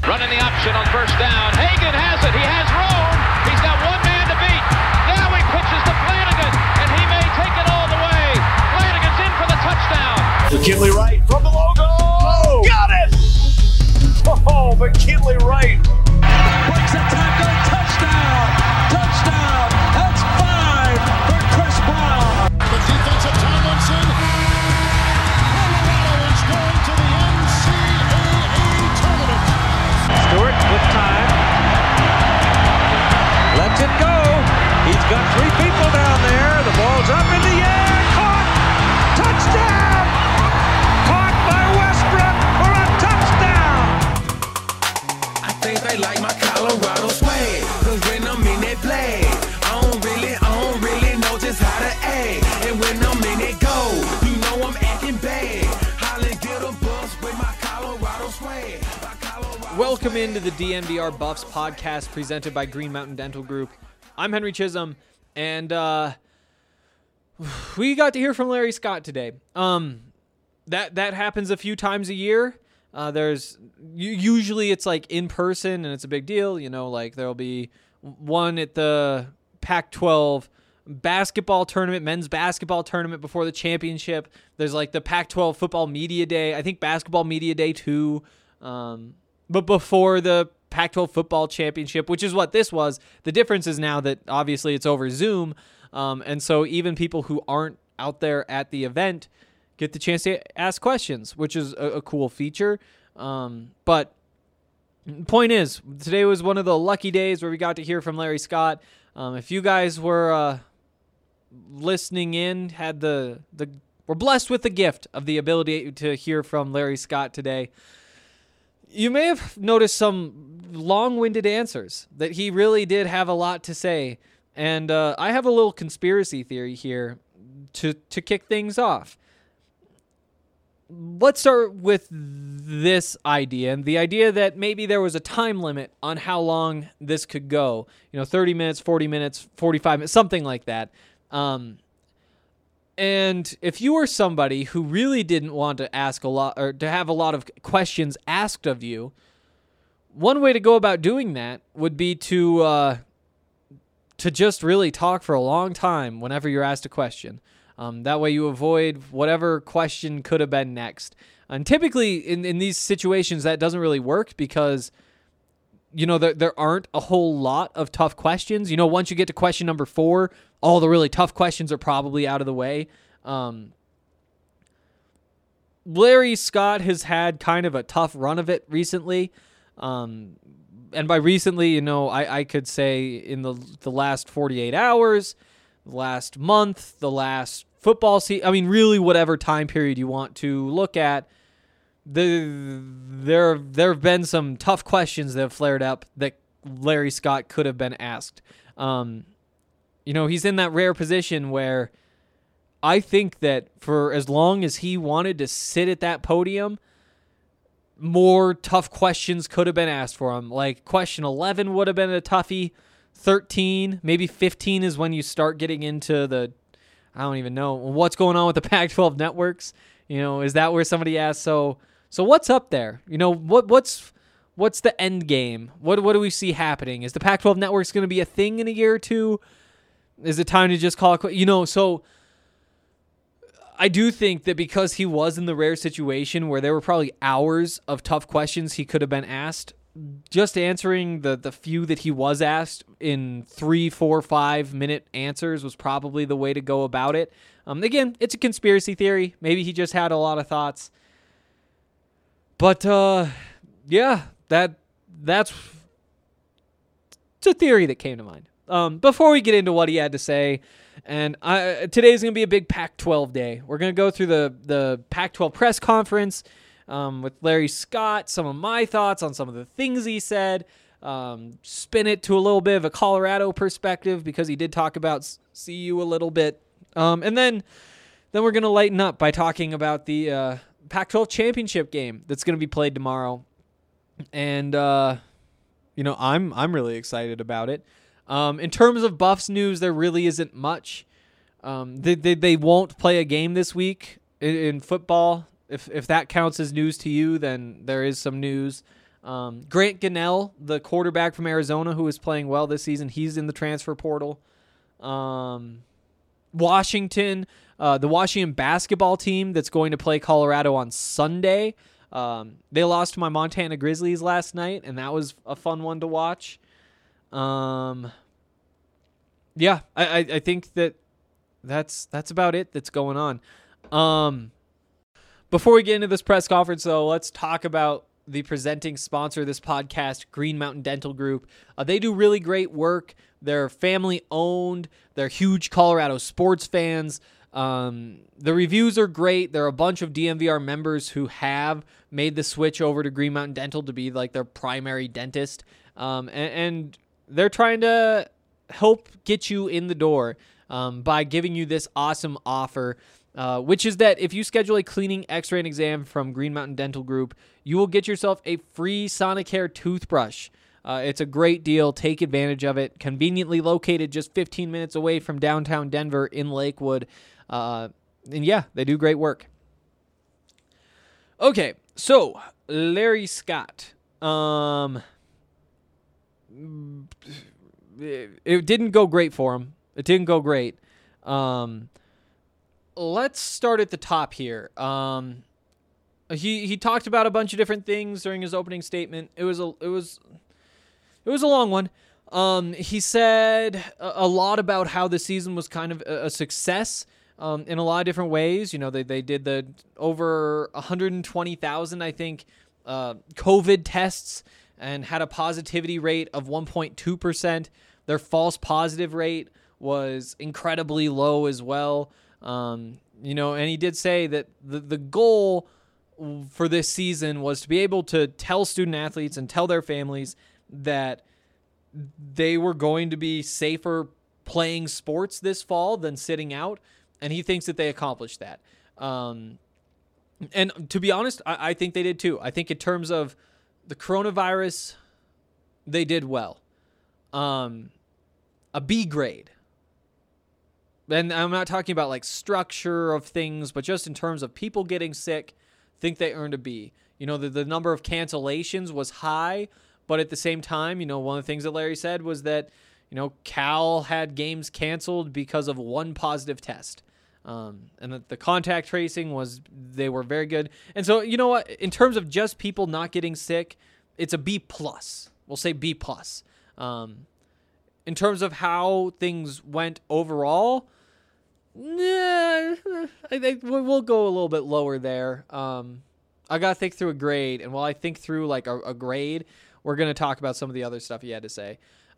Running the option on first down. Hagan has it. He has room. He's got one man to beat. Now he pitches to Flanagan, and he may take it all the way. Flanagan's in for the touchdown. McKinley Wright from the logo. Oh, got it! Oh, McKinley Wright. Breaks a tackle. Touchdown. Touchdown. That's 5 for Chris Brown. The defensive Tomlinson. Colorado is going to the NCAA tournament. Stewart with time. Lets it go. He's got 3 people down there. The ball's up in the air. Caught. Touchdown. Caught by Westbrook for a touchdown. I think they like my Colorado swag. Cause when I'm in that play, I don't really know just how to act. And when I'm in it go, you know I'm acting bad. Holly get a bus with my Colorado swag. Welcome into the DNVR Buffs podcast presented by Green Mountain Dental Group. I'm Henry Chisholm, and we got to hear from Larry Scott today. That happens a few times a year. Usually it's like in person, and it's a big deal. You know, like there'll be one at the Pac-12 basketball tournament, men's basketball tournament before the championship. There's like the Pac-12 football media day. I think basketball media day too. But before the Pac-12 football championship, which is what this was. The difference is now that obviously it's over Zoom. And so even people who aren't out there at the event get the chance to ask questions, which is a cool feature. But the point is, today was one of the lucky days where we got to hear from Larry Scott. If you guys were listening in, were blessed with the gift of the ability to hear from Larry Scott today, you may have noticed some long-winded answers, that he really did have a lot to say. And I have a little conspiracy theory here to kick things off. Let's start with this idea, and the idea that maybe there was a time limit on how long this could go. 30 minutes, 40 minutes, 45 minutes, something like that. And if you were somebody who really didn't want to ask a lot or to have a lot of questions asked of you, one way to go about doing that would be to just really talk for a long time whenever you're asked a question. That way you avoid whatever question could have been next. And typically in these situations that doesn't really work because there aren't a whole lot of tough questions. Once you get to question number 4, all the really tough questions are probably out of the way. Larry Scott has had kind of a tough run of it recently. And by recently, I could say in the last 48 hours, the last month, the last football season. I mean, really whatever time period you want to look at. There have been some tough questions that have flared up that Larry Scott could have been asked. He's in that rare position where I think that for as long as he wanted to sit at that podium, more tough questions could have been asked for him. Like question 11 would have been a toughie. 13, maybe 15 is when you start getting into I don't even know what's going on with the Pac-12 networks. Is that where somebody asks? So what's up there? What's the end game? What do we see happening? Is the Pac-12 networks going to be a thing in a year or two? Is it time to just call it? So I do think that because he was in the rare situation where there were probably hours of tough questions he could have been asked, just answering the few that he was asked in 3, 4, 5 minute answers was probably the way to go about it. Again, it's a conspiracy theory. Maybe he just had a lot of thoughts. But yeah, that's a theory that came to mind. Before we get into what he had to say, and today's going to be a big Pac-12 day. We're going to go through the Pac-12 press conference with Larry Scott, some of my thoughts on some of the things he said, spin it to a little bit of a Colorado perspective because he did talk about CU a little bit. And then we're going to lighten up by talking about the Pac-12 championship game that's going to be played tomorrow. And, I'm really excited about it. In terms of Buffs news, there really isn't much. They won't play a game this week in football. If that counts as news to you, then there is some news. Grant Gunnell, the quarterback from Arizona who is playing well this season, he's in the transfer portal. Washington, the Washington basketball team that's going to play Colorado on Sunday. They lost to my Montana Grizzlies last night, and that was a fun one to watch. I think that's about it that's going on. Before we get into this press conference, though, let's talk about the presenting sponsor of this podcast, Green Mountain Dental Group. They do really great work. They're family-owned. They're huge Colorado sports fans. The reviews are great. There are a bunch of DMVR members who have made the switch over to Green Mountain Dental to be like their primary dentist. And they're trying to help get you in the door by giving you this awesome offer, which is that if you schedule a cleaning, x-ray, and exam from Green Mountain Dental Group, you will get yourself a free Sonicare toothbrush. It's a great deal. Take advantage of it. Conveniently located just 15 minutes away from downtown Denver in Lakewood. And yeah, they do great work. Okay, so Larry Scott. It didn't go great for him. It didn't go great. Let's start at the top here. He talked about a bunch of different things during his opening statement. It was a long one. He said a lot about how the season was kind of a success in a lot of different ways. You know, they did the over 120,000, I think, COVID tests and had a positivity rate of 1.2%. Their false positive rate was incredibly low as well. And he did say that the goal for this season was to be able to tell student athletes and tell their families that they were going to be safer playing sports this fall than sitting out. And he thinks that they accomplished that. And to be honest, I think they did too. I think in terms of the coronavirus, they did well. A B grade. And I'm not talking about like structure of things, but just in terms of people getting sick, think they earned a B. You know, the number of cancellations was high, but at the same time, you know, one of the things that Larry said was that, you know, Cal had games canceled because of one positive test. And that the contact tracing they were very good. And so, you know what, in terms of just people not getting sick, it's a B plus. We'll say B plus. In terms of how things went overall, I think we'll go a little bit lower there. I got to think through a grade, and while I think through like a grade, we're going to talk about some of the other stuff he had to say.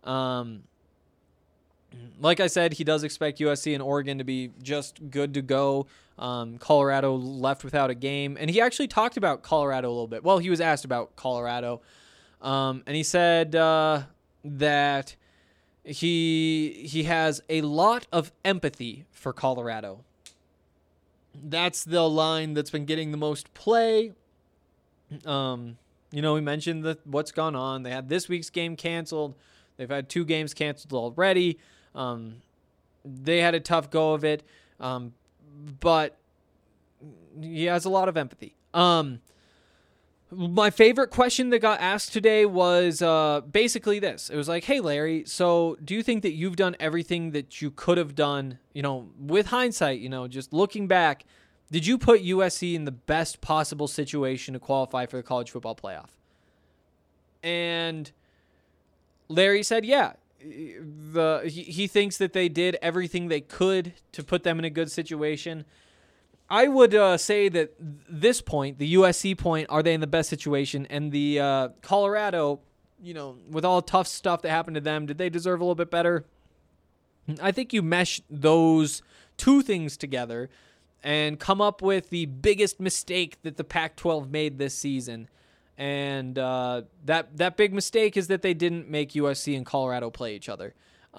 Like I said, he does expect USC and Oregon to be just good to go. Colorado left without a game, and he actually talked about Colorado a little bit. Well, he was asked about Colorado, and he said that he has a lot of empathy for Colorado. That's the line that's been getting the most play. You know, we mentioned what's gone on. They had this week's game canceled. They've had 2 games canceled already. They had a tough go of it. But he has a lot of empathy. My favorite question that got asked today was basically this. It was like, hey, Larry, so do you think that you've done everything that you could have done, you know, with hindsight, you know, just looking back, did you put USC in the best possible situation to qualify for the college football playoff? And Larry said, yeah. He thinks that they did everything they could to put them in a good situation. I would say that this point, the USC point, are they in the best situation? And the Colorado, you know, with all the tough stuff that happened to them, did they deserve a little bit better? I think you mesh those two things together and come up with the biggest mistake that the Pac-12 made this season. And that big mistake is that they didn't make USC and Colorado play each other.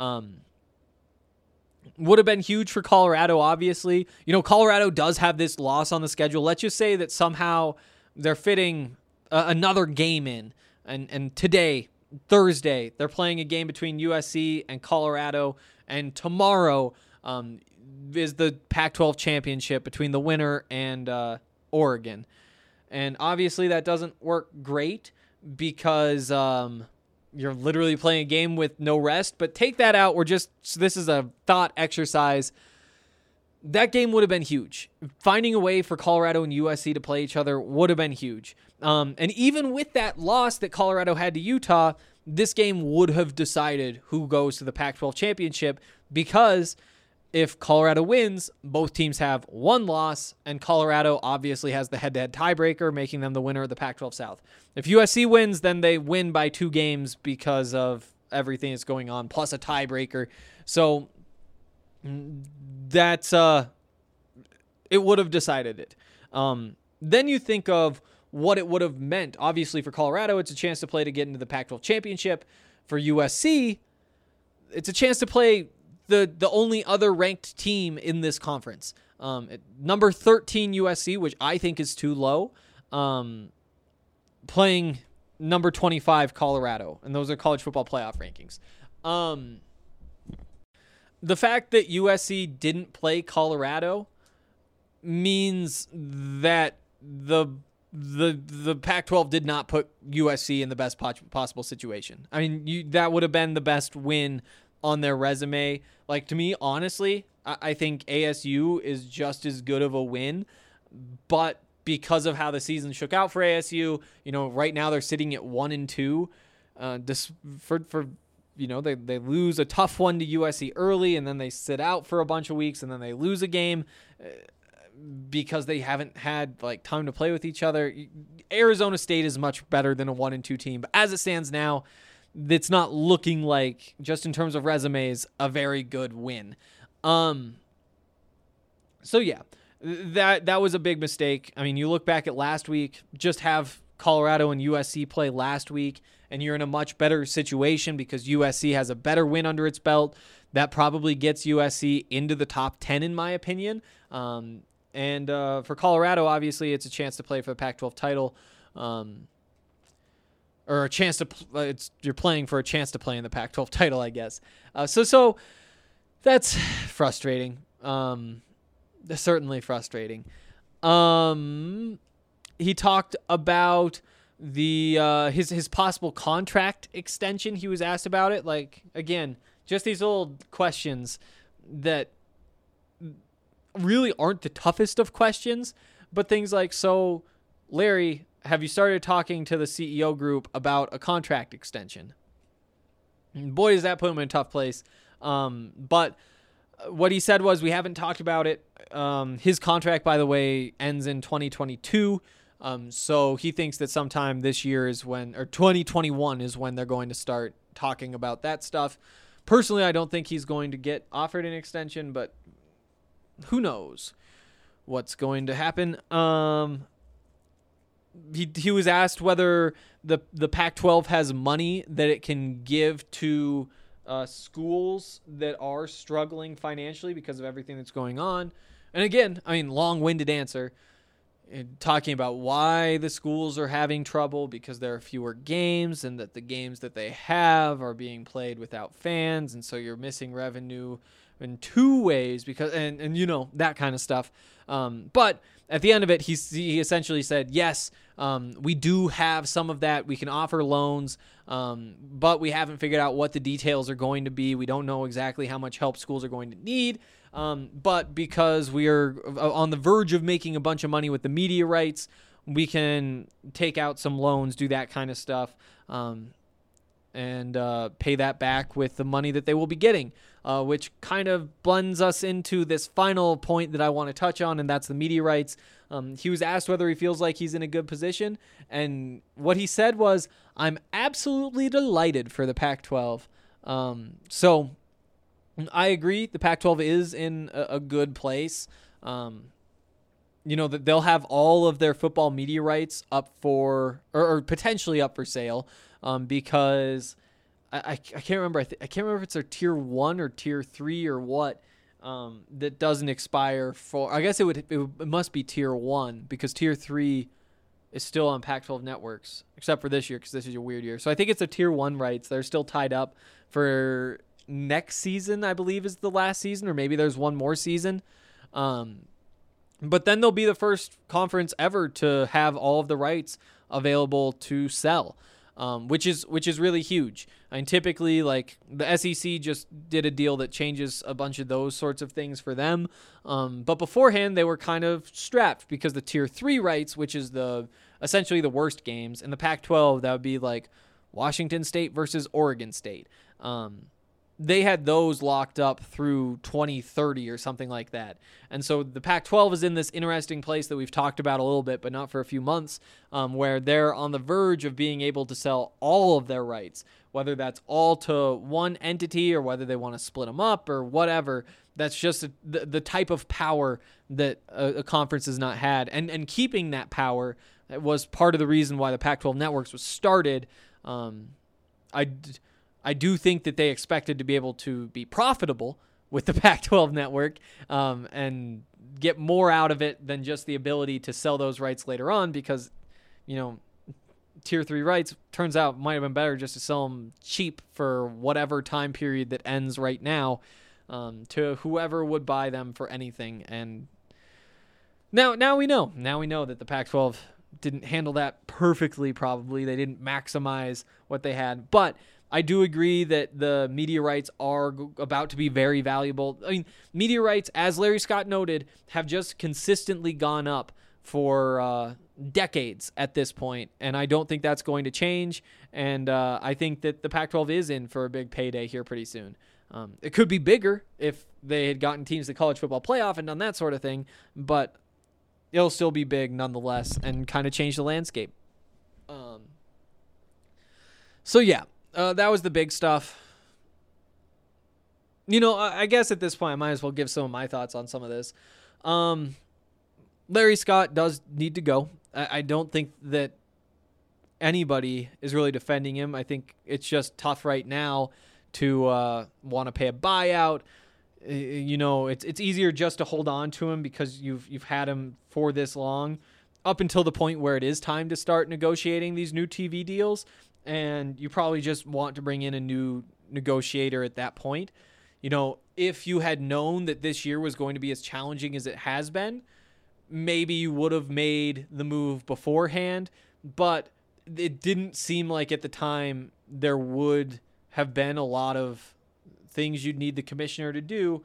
Would have been huge for Colorado, obviously. You know, Colorado does have this loss on the schedule. Let's just say that somehow they're fitting another game in. And today, Thursday, they're playing a game between USC and Colorado. And tomorrow is the Pac-12 championship between the winner and Oregon. And obviously that doesn't work great, because you're literally playing a game with no rest. But take that out. So this is a thought exercise. That game would have been huge. Finding a way for Colorado and USC to play each other would have been huge. And even with that loss that Colorado had to Utah, this game would have decided who goes to the Pac-12 championship, because if Colorado wins, both teams have one loss, and Colorado obviously has the head-to-head tiebreaker, making them the winner of the Pac-12 South. If USC wins, then they win by 2 games because of everything that's going on, plus a tiebreaker. So that's it would have decided it. Then you think of what it would have meant. Obviously, for Colorado, it's a chance to play to get into the Pac-12 championship. For USC, it's a chance to play the only other ranked team in this conference. Number 13 USC, which I think is too low, playing number 25 Colorado, and those are college football playoff rankings. The fact that USC didn't play Colorado means that the Pac-12 did not put USC in the best possible situation. I mean, that would have been the best win on their resume. Like, to me, honestly, I think ASU is just as good of a win, but because of how the season shook out for ASU, right now they're sitting at 1-2. They lose a tough one to USC early, and then they sit out for a bunch of weeks, and then they lose a game because they haven't had time to play with each other. Arizona State is much better than a 1-2 team, but as it stands now, it's not looking like, just in terms of resumes, a very good win. So yeah, that was a big mistake. I mean, you look back at last week, just have Colorado and USC play last week, and you're in a much better situation because USC has a better win under its belt. That probably gets USC into the top 10, in my opinion. And for Colorado, obviously, it's a chance to play for the Pac-12 title, or a chance to. You're playing for a chance to play in the Pac-12 title, I guess. So that's frustrating. Certainly frustrating. He talked about his possible contract extension. He was asked about it. Again, just these old questions that really aren't the toughest of questions, but things like, so Larry, have you started talking to the CEO group about a contract extension? And boy, does that put him in a tough place. But what he said was, we haven't talked about it. His contract, by the way, ends in 2022. So he thinks that sometime this year is when, or 2021 is when they're going to start talking about that stuff. Personally, I don't think he's going to get offered an extension, but who knows what's going to happen. He was asked whether the Pac-12 has money that it can give to schools that are struggling financially because of everything that's going on. And again, I mean, long-winded answer, talking about why the schools are having trouble because there are fewer games, and that the games that they have are being played without fans, and so you're missing revenue in 2 ways because and that kind of stuff. But at the end of it, he essentially said, yes, we do have some of that. We can offer loans, but we haven't figured out what the details are going to be. We don't know exactly how much help schools are going to need. But because we are on the verge of making a bunch of money with the media rights, we can take out some loans, do that kind of stuff, and pay that back with the money that they will be getting, which kind of blends us into this final point that I want to touch on, and that's the media rights. He was asked whether he feels like he's in a good position, and what he said was, I'm absolutely delighted for the Pac-12. So I agree, the Pac-12 is in a good place. That they'll have all of their football media rights up for, or potentially up for sale, because I can't remember. I can't remember if it's their tier 1 or tier 3 or what, that doesn't expire for. I guess it must be tier 1 because tier 3 is still on Pac-12 networks, except for this year because this is a weird year. So I think it's the tier 1 rights. They're still tied up for next season, I believe, is the last season, or maybe there's one more season. But then they'll be the first conference ever to have all of the rights available to sell. which is really huge. I mean, typically, like, the SEC just did a deal that changes a bunch of those sorts of things for them. But beforehand, they were kind of strapped because the Tier 3 rights, which is essentially the worst games, and the Pac-12, that would be like Washington State versus Oregon State. They had those locked up through 2030 or something like that. And so the Pac-12 is in this interesting place that we've talked about a little bit, but not for a few months, where they're on the verge of being able to sell all of their rights, whether that's all to one entity or whether they want to split them up or whatever. That's just the type of power that a conference has not had. And keeping that power was part of the reason why the Pac-12 networks was started. I do think that they expected to be able to be profitable with the Pac-12 network and get more out of it than just the ability to sell those rights later on because, Tier 3 rights turns out might have been better just to sell them cheap for whatever time period that ends right now to whoever would buy them for anything. And now we know. Now we know that the Pac-12 didn't handle that perfectly, probably. They didn't maximize what they had. But I do agree that the media rights are about to be very valuable. I mean, media rights, as Larry Scott noted, have just consistently gone up for decades at this point, and I don't think that's going to change. And I think that the Pac-12 is in for a big payday here pretty soon. It could be bigger if they had gotten teams to the college football playoff and done that sort of thing, but it'll still be big nonetheless and kind of change the landscape. So yeah. That was the big stuff. I guess at this point, I might as well give some of my thoughts on some of this. Larry Scott does need to go. I don't think that anybody is really defending him. I think it's just tough right now to want to pay a buyout. It's easier just to hold on to him because you've had him for this long, up until the point where it is time to start negotiating these new TV deals. And you probably just want to bring in a new negotiator at that point. If you had known that this year was going to be as challenging as it has been, maybe you would have made the move beforehand. But it didn't seem like at the time there would have been a lot of things you'd need the commissioner to do.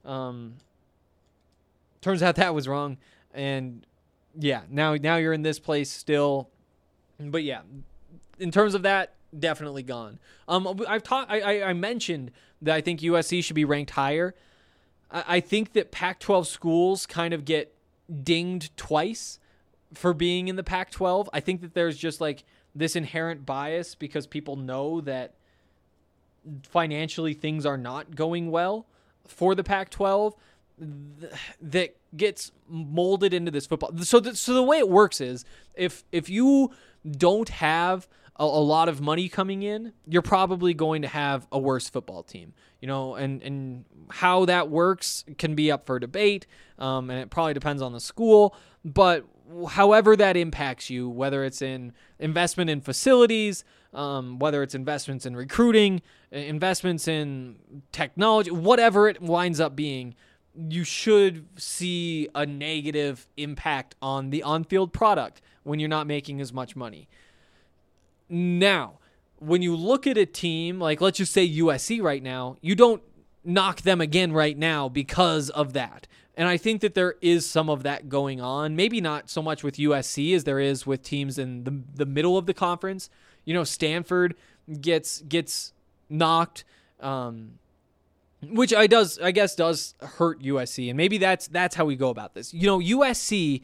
Turns out that was wrong. And yeah, now you're in this place still. But yeah, in terms of that, definitely gone. I mentioned that I think USC should be ranked higher. I think that Pac-12 schools kind of get dinged twice for being in the Pac-12. I think that there's just like this inherent bias because people know that financially things are not going well for the Pac-12 that gets molded into this football. So the way it works is if you don't have a lot of money coming in, you're probably going to have a worse football team, and how that works can be up for debate. And it probably depends on the school, but however that impacts you, whether it's in investment in facilities, whether it's investments in recruiting, investments in technology, whatever it winds up being, you should see a negative impact on the on-field product when you're not making as much money. Now, when you look at a team, like let's just say USC right now, you don't knock them again right now because of that. And I think that there is some of that going on. Maybe not so much with USC as there is with teams in the middle of the conference. Stanford gets knocked, which I guess does hurt USC. And maybe that's how we go about this. USC,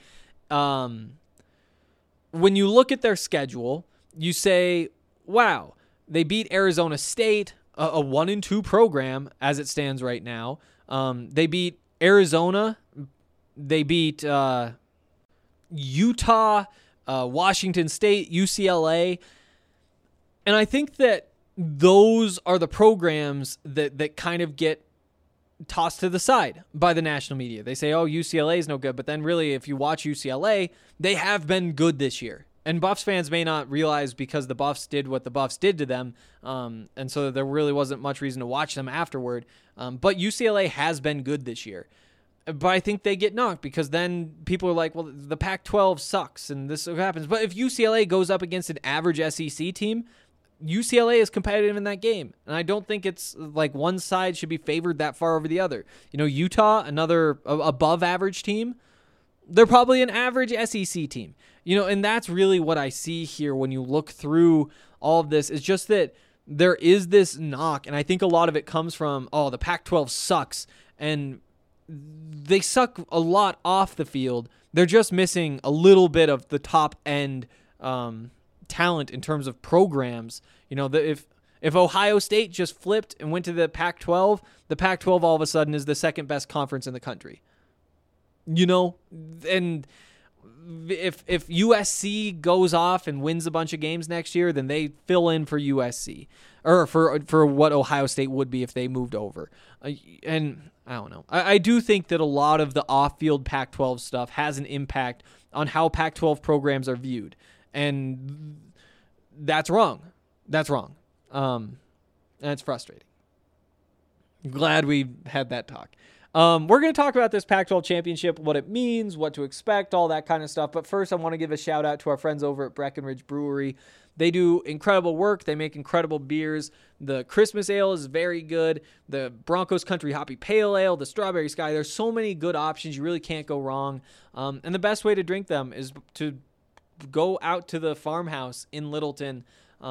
when you look at their schedule, you say, wow, they beat Arizona State, a 1-2 program as it stands right now. They beat Arizona. They beat Utah, Washington State, UCLA. And I think that those are the programs that kind of get tossed to the side by the national media. They say, oh, UCLA is no good. But then really, if you watch UCLA, they have been good this year. And Buffs fans may not realize because the Buffs did what the Buffs did to them, and so there really wasn't much reason to watch them afterward. But UCLA has been good this year. But I think they get knocked because then people are like, well, the Pac-12 sucks and this happens. But if UCLA goes up against an average SEC team, UCLA is competitive in that game. And I don't think it's like one side should be favored that far over the other. Utah, another above average team, they're probably an average SEC team. And that's really what I see here when you look through all of this. It's just that there is this knock, and I think a lot of it comes from, the Pac-12 sucks, and they suck a lot off the field. They're just missing a little bit of the top end talent in terms of programs. If Ohio State just flipped and went to the Pac-12 all of a sudden is the second best conference in the country. And if USC goes off and wins a bunch of games next year, then they fill in for USC or for what Ohio State would be if they moved over. And I don't know. I do think that a lot of the off-field Pac-12 stuff has an impact on how Pac-12 programs are viewed. And that's wrong. And it's frustrating. Glad we had that talk. We're going to talk about this Pac-12 championship, what it means, what to expect, all that kind of stuff. But first, I want to give a shout out to our friends over at Breckenridge Brewery. They do incredible work. They make incredible beers. The Christmas Ale is very good. The Broncos Country Hoppy Pale Ale, the Strawberry Sky. There's so many good options. You really can't go wrong. And the best way to drink them is to go out to the farmhouse in Littleton,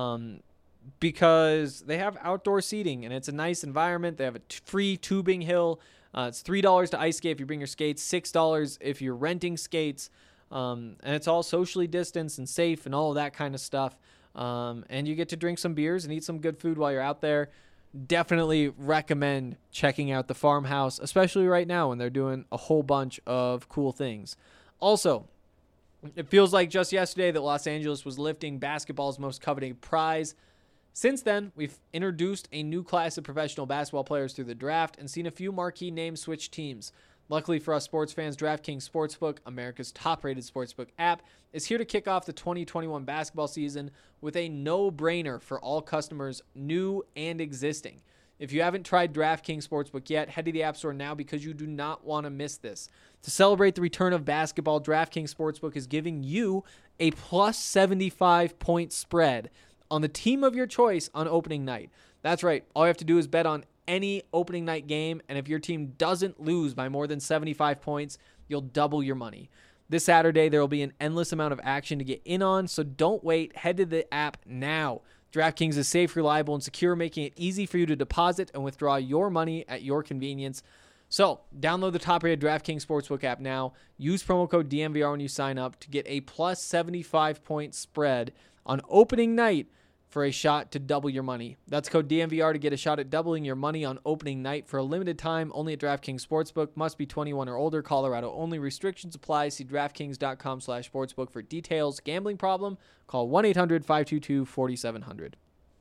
because they have outdoor seating and it's a nice environment. They have a free tubing hill. It's $3 to ice skate if you bring your skates, $6 if you're renting skates. And it's all socially distanced and safe and all of that kind of stuff. And you get to drink some beers and eat some good food while you're out there. Definitely recommend checking out the farmhouse, especially right now when they're doing a whole bunch of cool things. Also, it feels like just yesterday that Los Angeles was lifting basketball's most coveted prize. Since then, we've introduced a new class of professional basketball players through the draft and seen a few marquee names switch teams. Luckily for us sports fans, DraftKings Sportsbook, America's top-rated sportsbook app, is here to kick off the 2021 basketball season with a no-brainer for all customers, new and existing. If you haven't tried DraftKings Sportsbook yet, head to the App Store now because you do not want to miss this. To celebrate the return of basketball, DraftKings Sportsbook is giving you a plus 75-point spread on the team of your choice on opening night. That's right. All you have to do is bet on any opening night game, and if your team doesn't lose by more than 75 points, you'll double your money. This Saturday, there will be an endless amount of action to get in on, so don't wait. Head to the app now. DraftKings is safe, reliable, and secure, making it easy for you to deposit and withdraw your money at your convenience. So, download the top-rated DraftKings Sportsbook app now. Use promo code DMVR when you sign up to get a plus 75-point spread on opening night for a shot to double your money. That's code DMVR to get a shot at doubling your money on opening night for a limited time only at DraftKings Sportsbook. Must be 21 or older. Colorado only. Restrictions apply. See DraftKings.com/sportsbook for details. Gambling problem? Call 1-800-522-4700.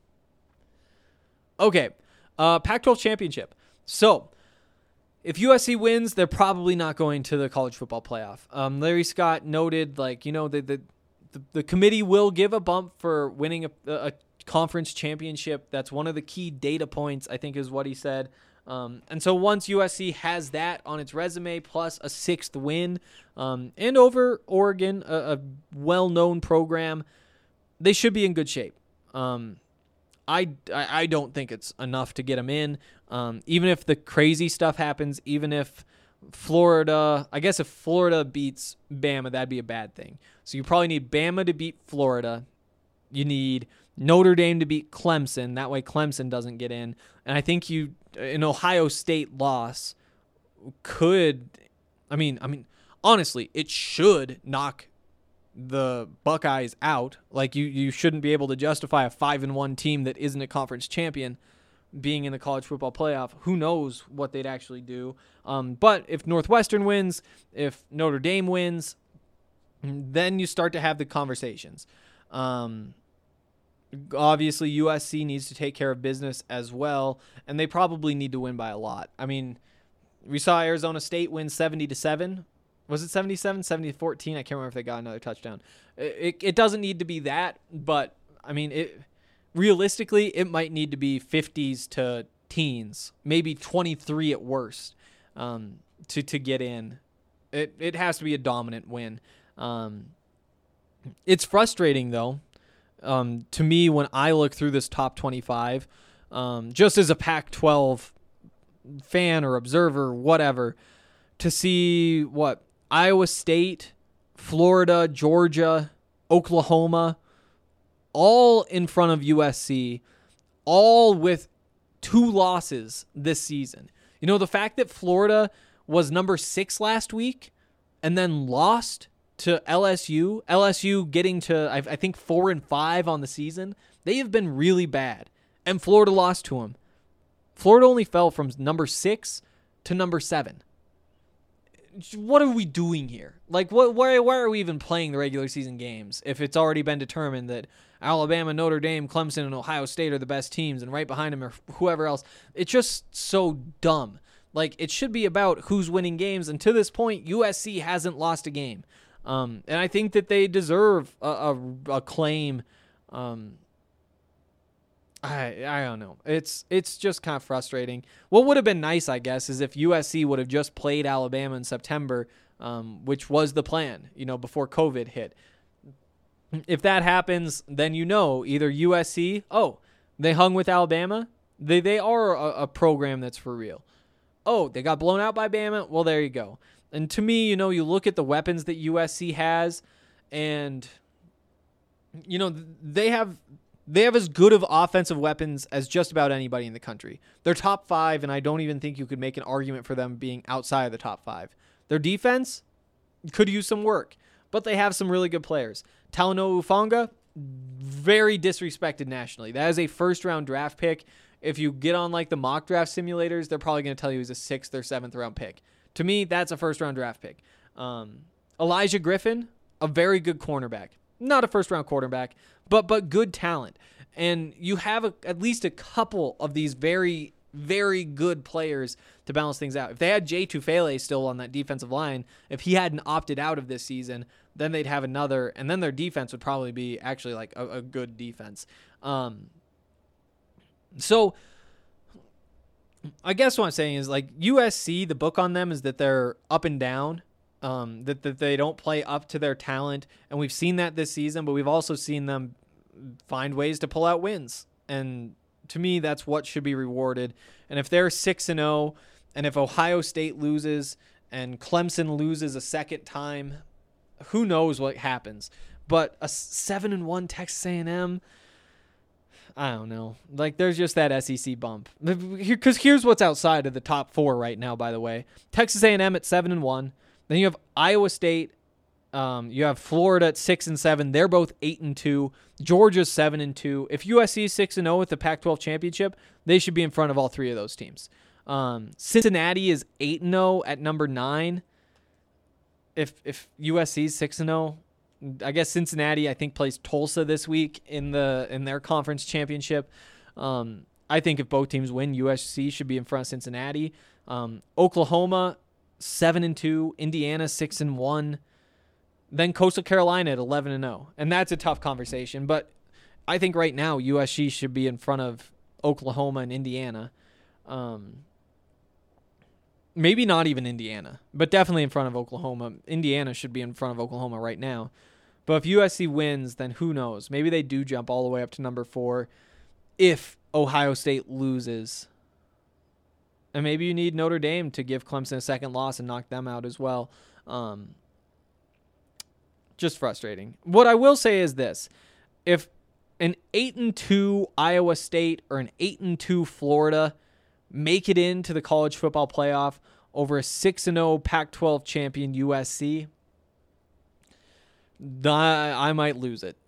Okay. Pac-12 championship. So, if USC wins, they're probably not going to the college football playoff. Larry Scott noted, the committee will give a bump for winning a conference championship. That's one of the key data points, I think, is what he said. And so once USC has that on its resume, plus a 6th win, and over Oregon, a well-known program, they should be in good shape. I don't think it's enough to get them in. Even if the crazy stuff happens, even if Florida, I guess if Florida beats Bama, that'd be a bad thing. So you probably need Bama to beat Florida. You need Notre Dame to beat Clemson. That way Clemson doesn't get in. And I think an Ohio State loss could, honestly, it should knock the Buckeyes out. Like you shouldn't be able to justify a 5-1 team that isn't a conference champion being in the college football playoff. Who knows what they'd actually do. But if Northwestern wins, if Notre Dame wins, then you start to have the conversations. Obviously, USC needs to take care of business as well, and they probably need to win by a lot. I mean, we saw Arizona State win 70-7. Was it 77, 70-14? I can't remember if they got another touchdown. It doesn't need to be that, but, realistically, it might need to be 50s to teens, maybe 23 at worst. to get in. It has to be a dominant win. It's frustrating, though, to me when I look through this top 25, just as a Pac-12 fan or observer, whatever, to see what Iowa State, Florida, Georgia, Oklahoma, all in front of USC, all with 2 losses this season. You know, the fact that Florida was number 6 last week and then lost to LSU getting to, I think, 4-5 on the season. They have been really bad. And Florida lost to them. Florida only fell from number 6 to number 7. What are we doing here? Like, why are we even playing the regular season games if it's already been determined that Alabama, Notre Dame, Clemson, and Ohio State are the best teams, and right behind them are whoever else? It's just so dumb. Like, it should be about who's winning games, and to this point, USC hasn't lost a game. And I think that they deserve a claim. I don't know. It's just kind of frustrating. What would have been nice, I guess, is if USC would have just played Alabama in September, which was the plan, before COVID hit. If that happens, then either USC, they hung with Alabama. They are a program that's for real. Oh, they got blown out by Bama. Well, there you go. And to me, you look at the weapons that USC has, and they have as good of offensive weapons as just about anybody in the country. They're top 5, and I don't even think you could make an argument for them being outside of the top 5. Their defense could use some work, but they have some really good players. Talanoa Hufanga, very disrespected nationally. That is a first-round draft pick. If you get on like the mock draft simulators, they're probably going to tell you he's a 6th or 7th round pick. To me, that's a first-round draft pick. Elijah Griffin, a very good cornerback. Not a first-round quarterback, but good talent. And you have at least a couple of these very, very good players to balance things out. If they had Jay Tufele still on that defensive line, if he hadn't opted out of this season, then they'd have another, and then their defense would probably be actually like a good defense. So I guess what I'm saying is, like, USC, the book on them is that they're up and down, that they don't play up to their talent. And we've seen that this season, but we've also seen them find ways to pull out wins. And to me, that's what should be rewarded. And if they're 6-0, and if Ohio State loses and Clemson loses a second time, who knows what happens. But a 7-1 Texas A&M, I don't know. Like, there's just that SEC bump. Because here's what's outside of the top 4 right now, by the way. Texas A&M at 7-1. Then you have Iowa State. You have Florida at 6-7. They're both 8-2. Georgia's 7-2. If USC is 6-0 with the Pac-12 championship, they should be in front of all 3 of those teams. Cincinnati is 8-0 at number 9. If USC is 6-0, I guess Cincinnati, I think, plays Tulsa this week in their conference championship. I think if both teams win, USC should be in front of Cincinnati. Oklahoma 7-2, Indiana 6-1, then Coastal Carolina at 11-0, and that's a tough conversation. But I think right now USC should be in front of Oklahoma and Indiana. Maybe not even Indiana, but definitely in front of Oklahoma. Indiana should be in front of Oklahoma right now. But if USC wins, then who knows? Maybe they do jump all the way up to number 4 if Ohio State loses. And maybe you need Notre Dame to give Clemson a second loss and knock them out as well. Just frustrating. What I will say is this. If an 8-2 Iowa State or an 8-2 Florida make it into the college football playoff over a 6-0 Pac-12 champion USC, I might lose it.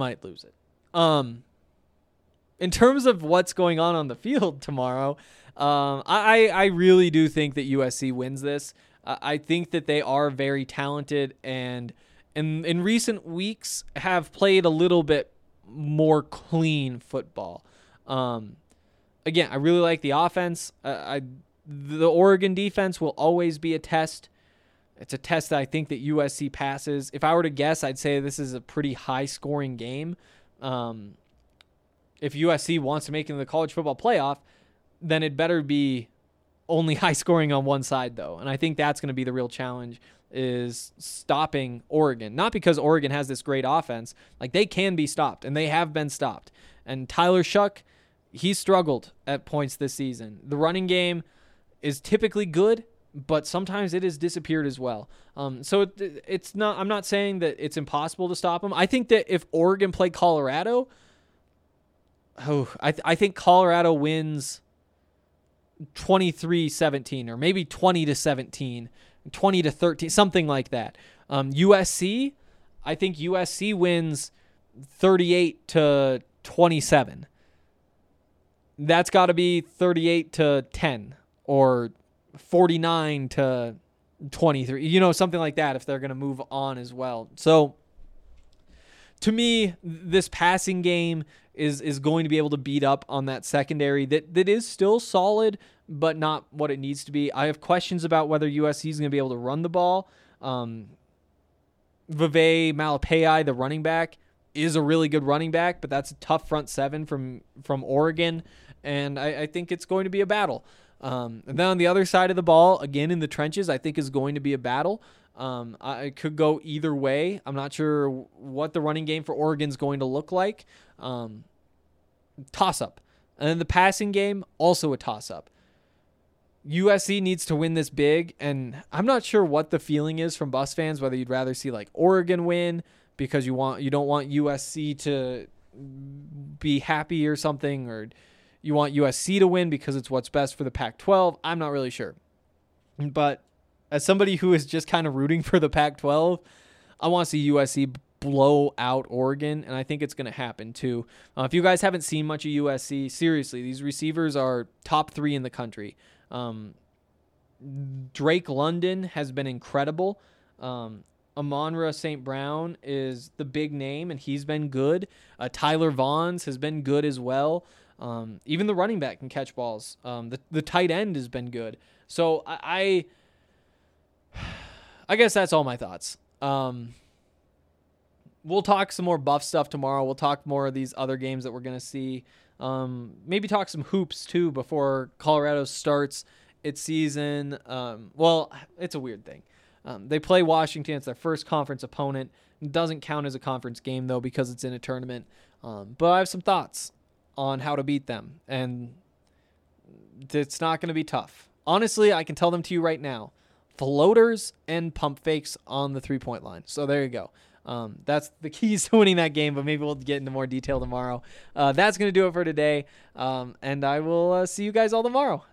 In terms of what's going on the field tomorrow, I really do think that USC wins this. I think that they are very talented and in recent weeks have played a little bit more clean football. Again, I really like the offense. The Oregon defense will always be a test. It's a test that I think that USC passes. If I were to guess, I'd say this is a pretty high-scoring game. If USC wants to make it into the college football playoff, then it better be only high scoring on one side, though. And I think that's going to be the real challenge, is stopping Oregon. Not because Oregon has this great offense. Like, they can be stopped, and they have been stopped. And Tyler Shuck, he struggled at points this season. The running game is typically good, but sometimes it has disappeared as well. So it's not. I'm not saying that it's impossible to stop them. I think that if Oregon played Colorado, I think Colorado wins 23-17, or maybe 20-17, 20-13, something like that. USC, I think USC wins 38-27. That's got to be 38-10 or 49-23, something like that, if they're going to move on as well. So to me, this passing game is going to be able to beat up on that secondary that is still solid, but not what it needs to be. I have questions about whether USC is going to be able to run the ball. Vavae Malepeai, the running back, is a really good running back, but that's a tough front seven from Oregon, and I think it's going to be a battle. And then on the other side of the ball, again in the trenches, I think is going to be a battle. I could go either way. I'm not sure what the running game for Oregon is going to look like. Toss-up. And then the passing game, also a toss-up. USC needs to win this big, and I'm not sure what the feeling is from Buffs fans, whether you'd rather see like Oregon win because you don't want USC to be happy or something, or you want USC to win because it's what's best for the Pac-12. I'm not really sure. But as somebody who is just kind of rooting for the Pac-12, I want to see USC blow out Oregon, and I think it's going to happen too. If you guys haven't seen much of USC, seriously, these receivers are top 3 in the country. Drake London has been incredible. Amon-Ra St. Brown is the big name, and he's been good. Tyler Vaughns has been good as well. Even the running back can catch balls. The tight end has been good. So I guess that's all my thoughts. We'll talk some more Buff stuff tomorrow. We'll talk more of these other games that we're going to see. Maybe talk some hoops too before Colorado starts its season. Well, it's a weird thing. They play Washington. It's their first conference opponent. It doesn't count as a conference game though because it's in a tournament. But I have some thoughts on how to beat them, and it's not going to be tough. Honestly, I can tell them to you right now. Floaters and pump fakes on the 3-point line. So there you go. That's the keys to winning that game, but maybe we'll get into more detail tomorrow. That's going to do it for today, and I will see you guys all tomorrow.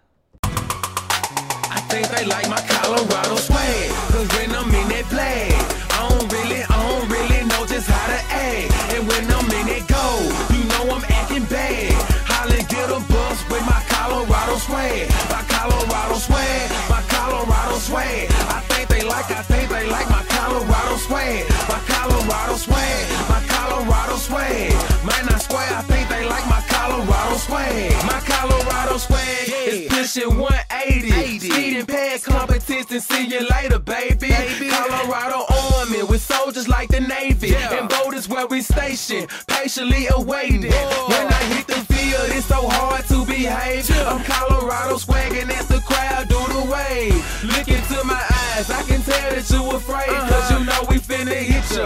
I think they like my Colorado swag, cause when I'm in that play, I don't really know just how to act. And when I'm in that go, you know I'm acting bad. Holla, get a bus with my Colorado swag. My Colorado swag, my Colorado swag. I think they like my Colorado swag. My Colorado swag, my Colorado swag. Man, I swear, I think they like my Colorado swag. My Colorado swag is pushing 180. Speeding past competition, see you later, baby. Colorado Army with soldiers like the Navy. And boat is where we station, patiently awaiting. When I hit the field, it's so hard to behave. I'm Colorado swagging as the crowd do the wave. Look into my eyes, I can tell that you afraid. Cause you know we finna hit ya.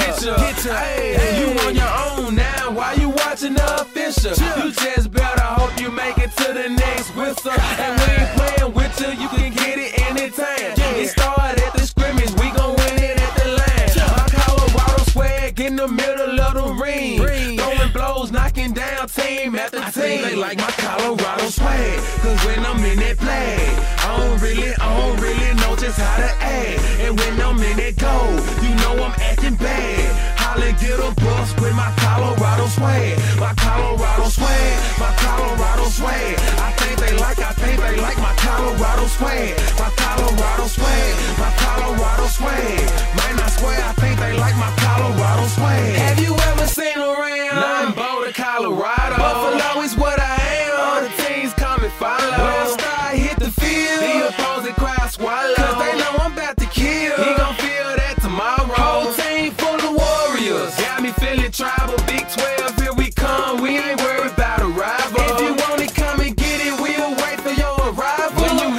Hey, you on your own now, why you watching the official? You just better hope you make it to the next whistle. And we ain't playing with you, you can get it anytime. It started at the scrimmage, we gon' win it at the line. My Colorado swag in the middle of the ring. Throwing blows, knocking down team after team. I think they like my Colorado swag, cause when I'm in that play, I don't really know just how to act. And when I'm in that go, you know I'm acting bad. Holla, get a bus with my Colorado swag. My Colorado swag, my Colorado swag. I think they like my Colorado swag. My Colorado swag, my Colorado swag. Man, I swear, I think they like my Colorado swag. Have you ever seen around? Nothing but Colorado. Buffalo is what I am. All the teams come and follow. When I start hit the field, the opposing crowd swallow. Cause they know I'm about to kill. He gon' feel that tomorrow. Whole team full of warriors. Got me feeling tribal. Big 12, here we come. We ain't worried about a rival. If you want it, come and get it. We'll wait for your arrival. When you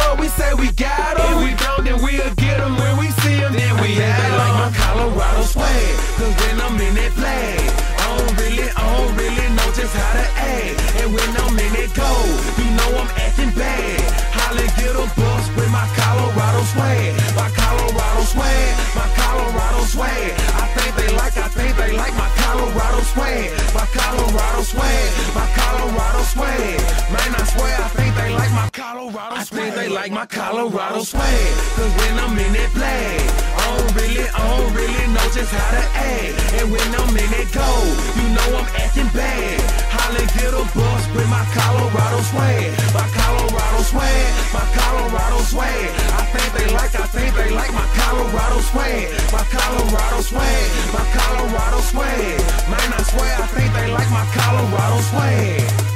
up, we say we got 'em. If we don't, then we'll get 'em when we see 'em. Then we had they like my Colorado swag. Cause when I'm in that flag, I don't really know just how to act. And when I'm in that gold, you know I'm acting bad. Holla, get a bus with my Colorado swag. My Colorado swag, my Colorado swag. I think they like my Colorado swag. My Colorado swag, my Colorado swag. Man, I swear, I think they like my Colorado swag. I think they like my Colorado swag. Cause when I'm in that flag, I don't really know just how to act. And when I'm in that gold, you know I'm acting bad. Holla, get a bus with my Colorado swag. My Colorado swag, my Colorado swag. I think they like my Colorado swag. My Colorado swag, my Colorado swag. Man, I swear, I think they like my Colorado swag.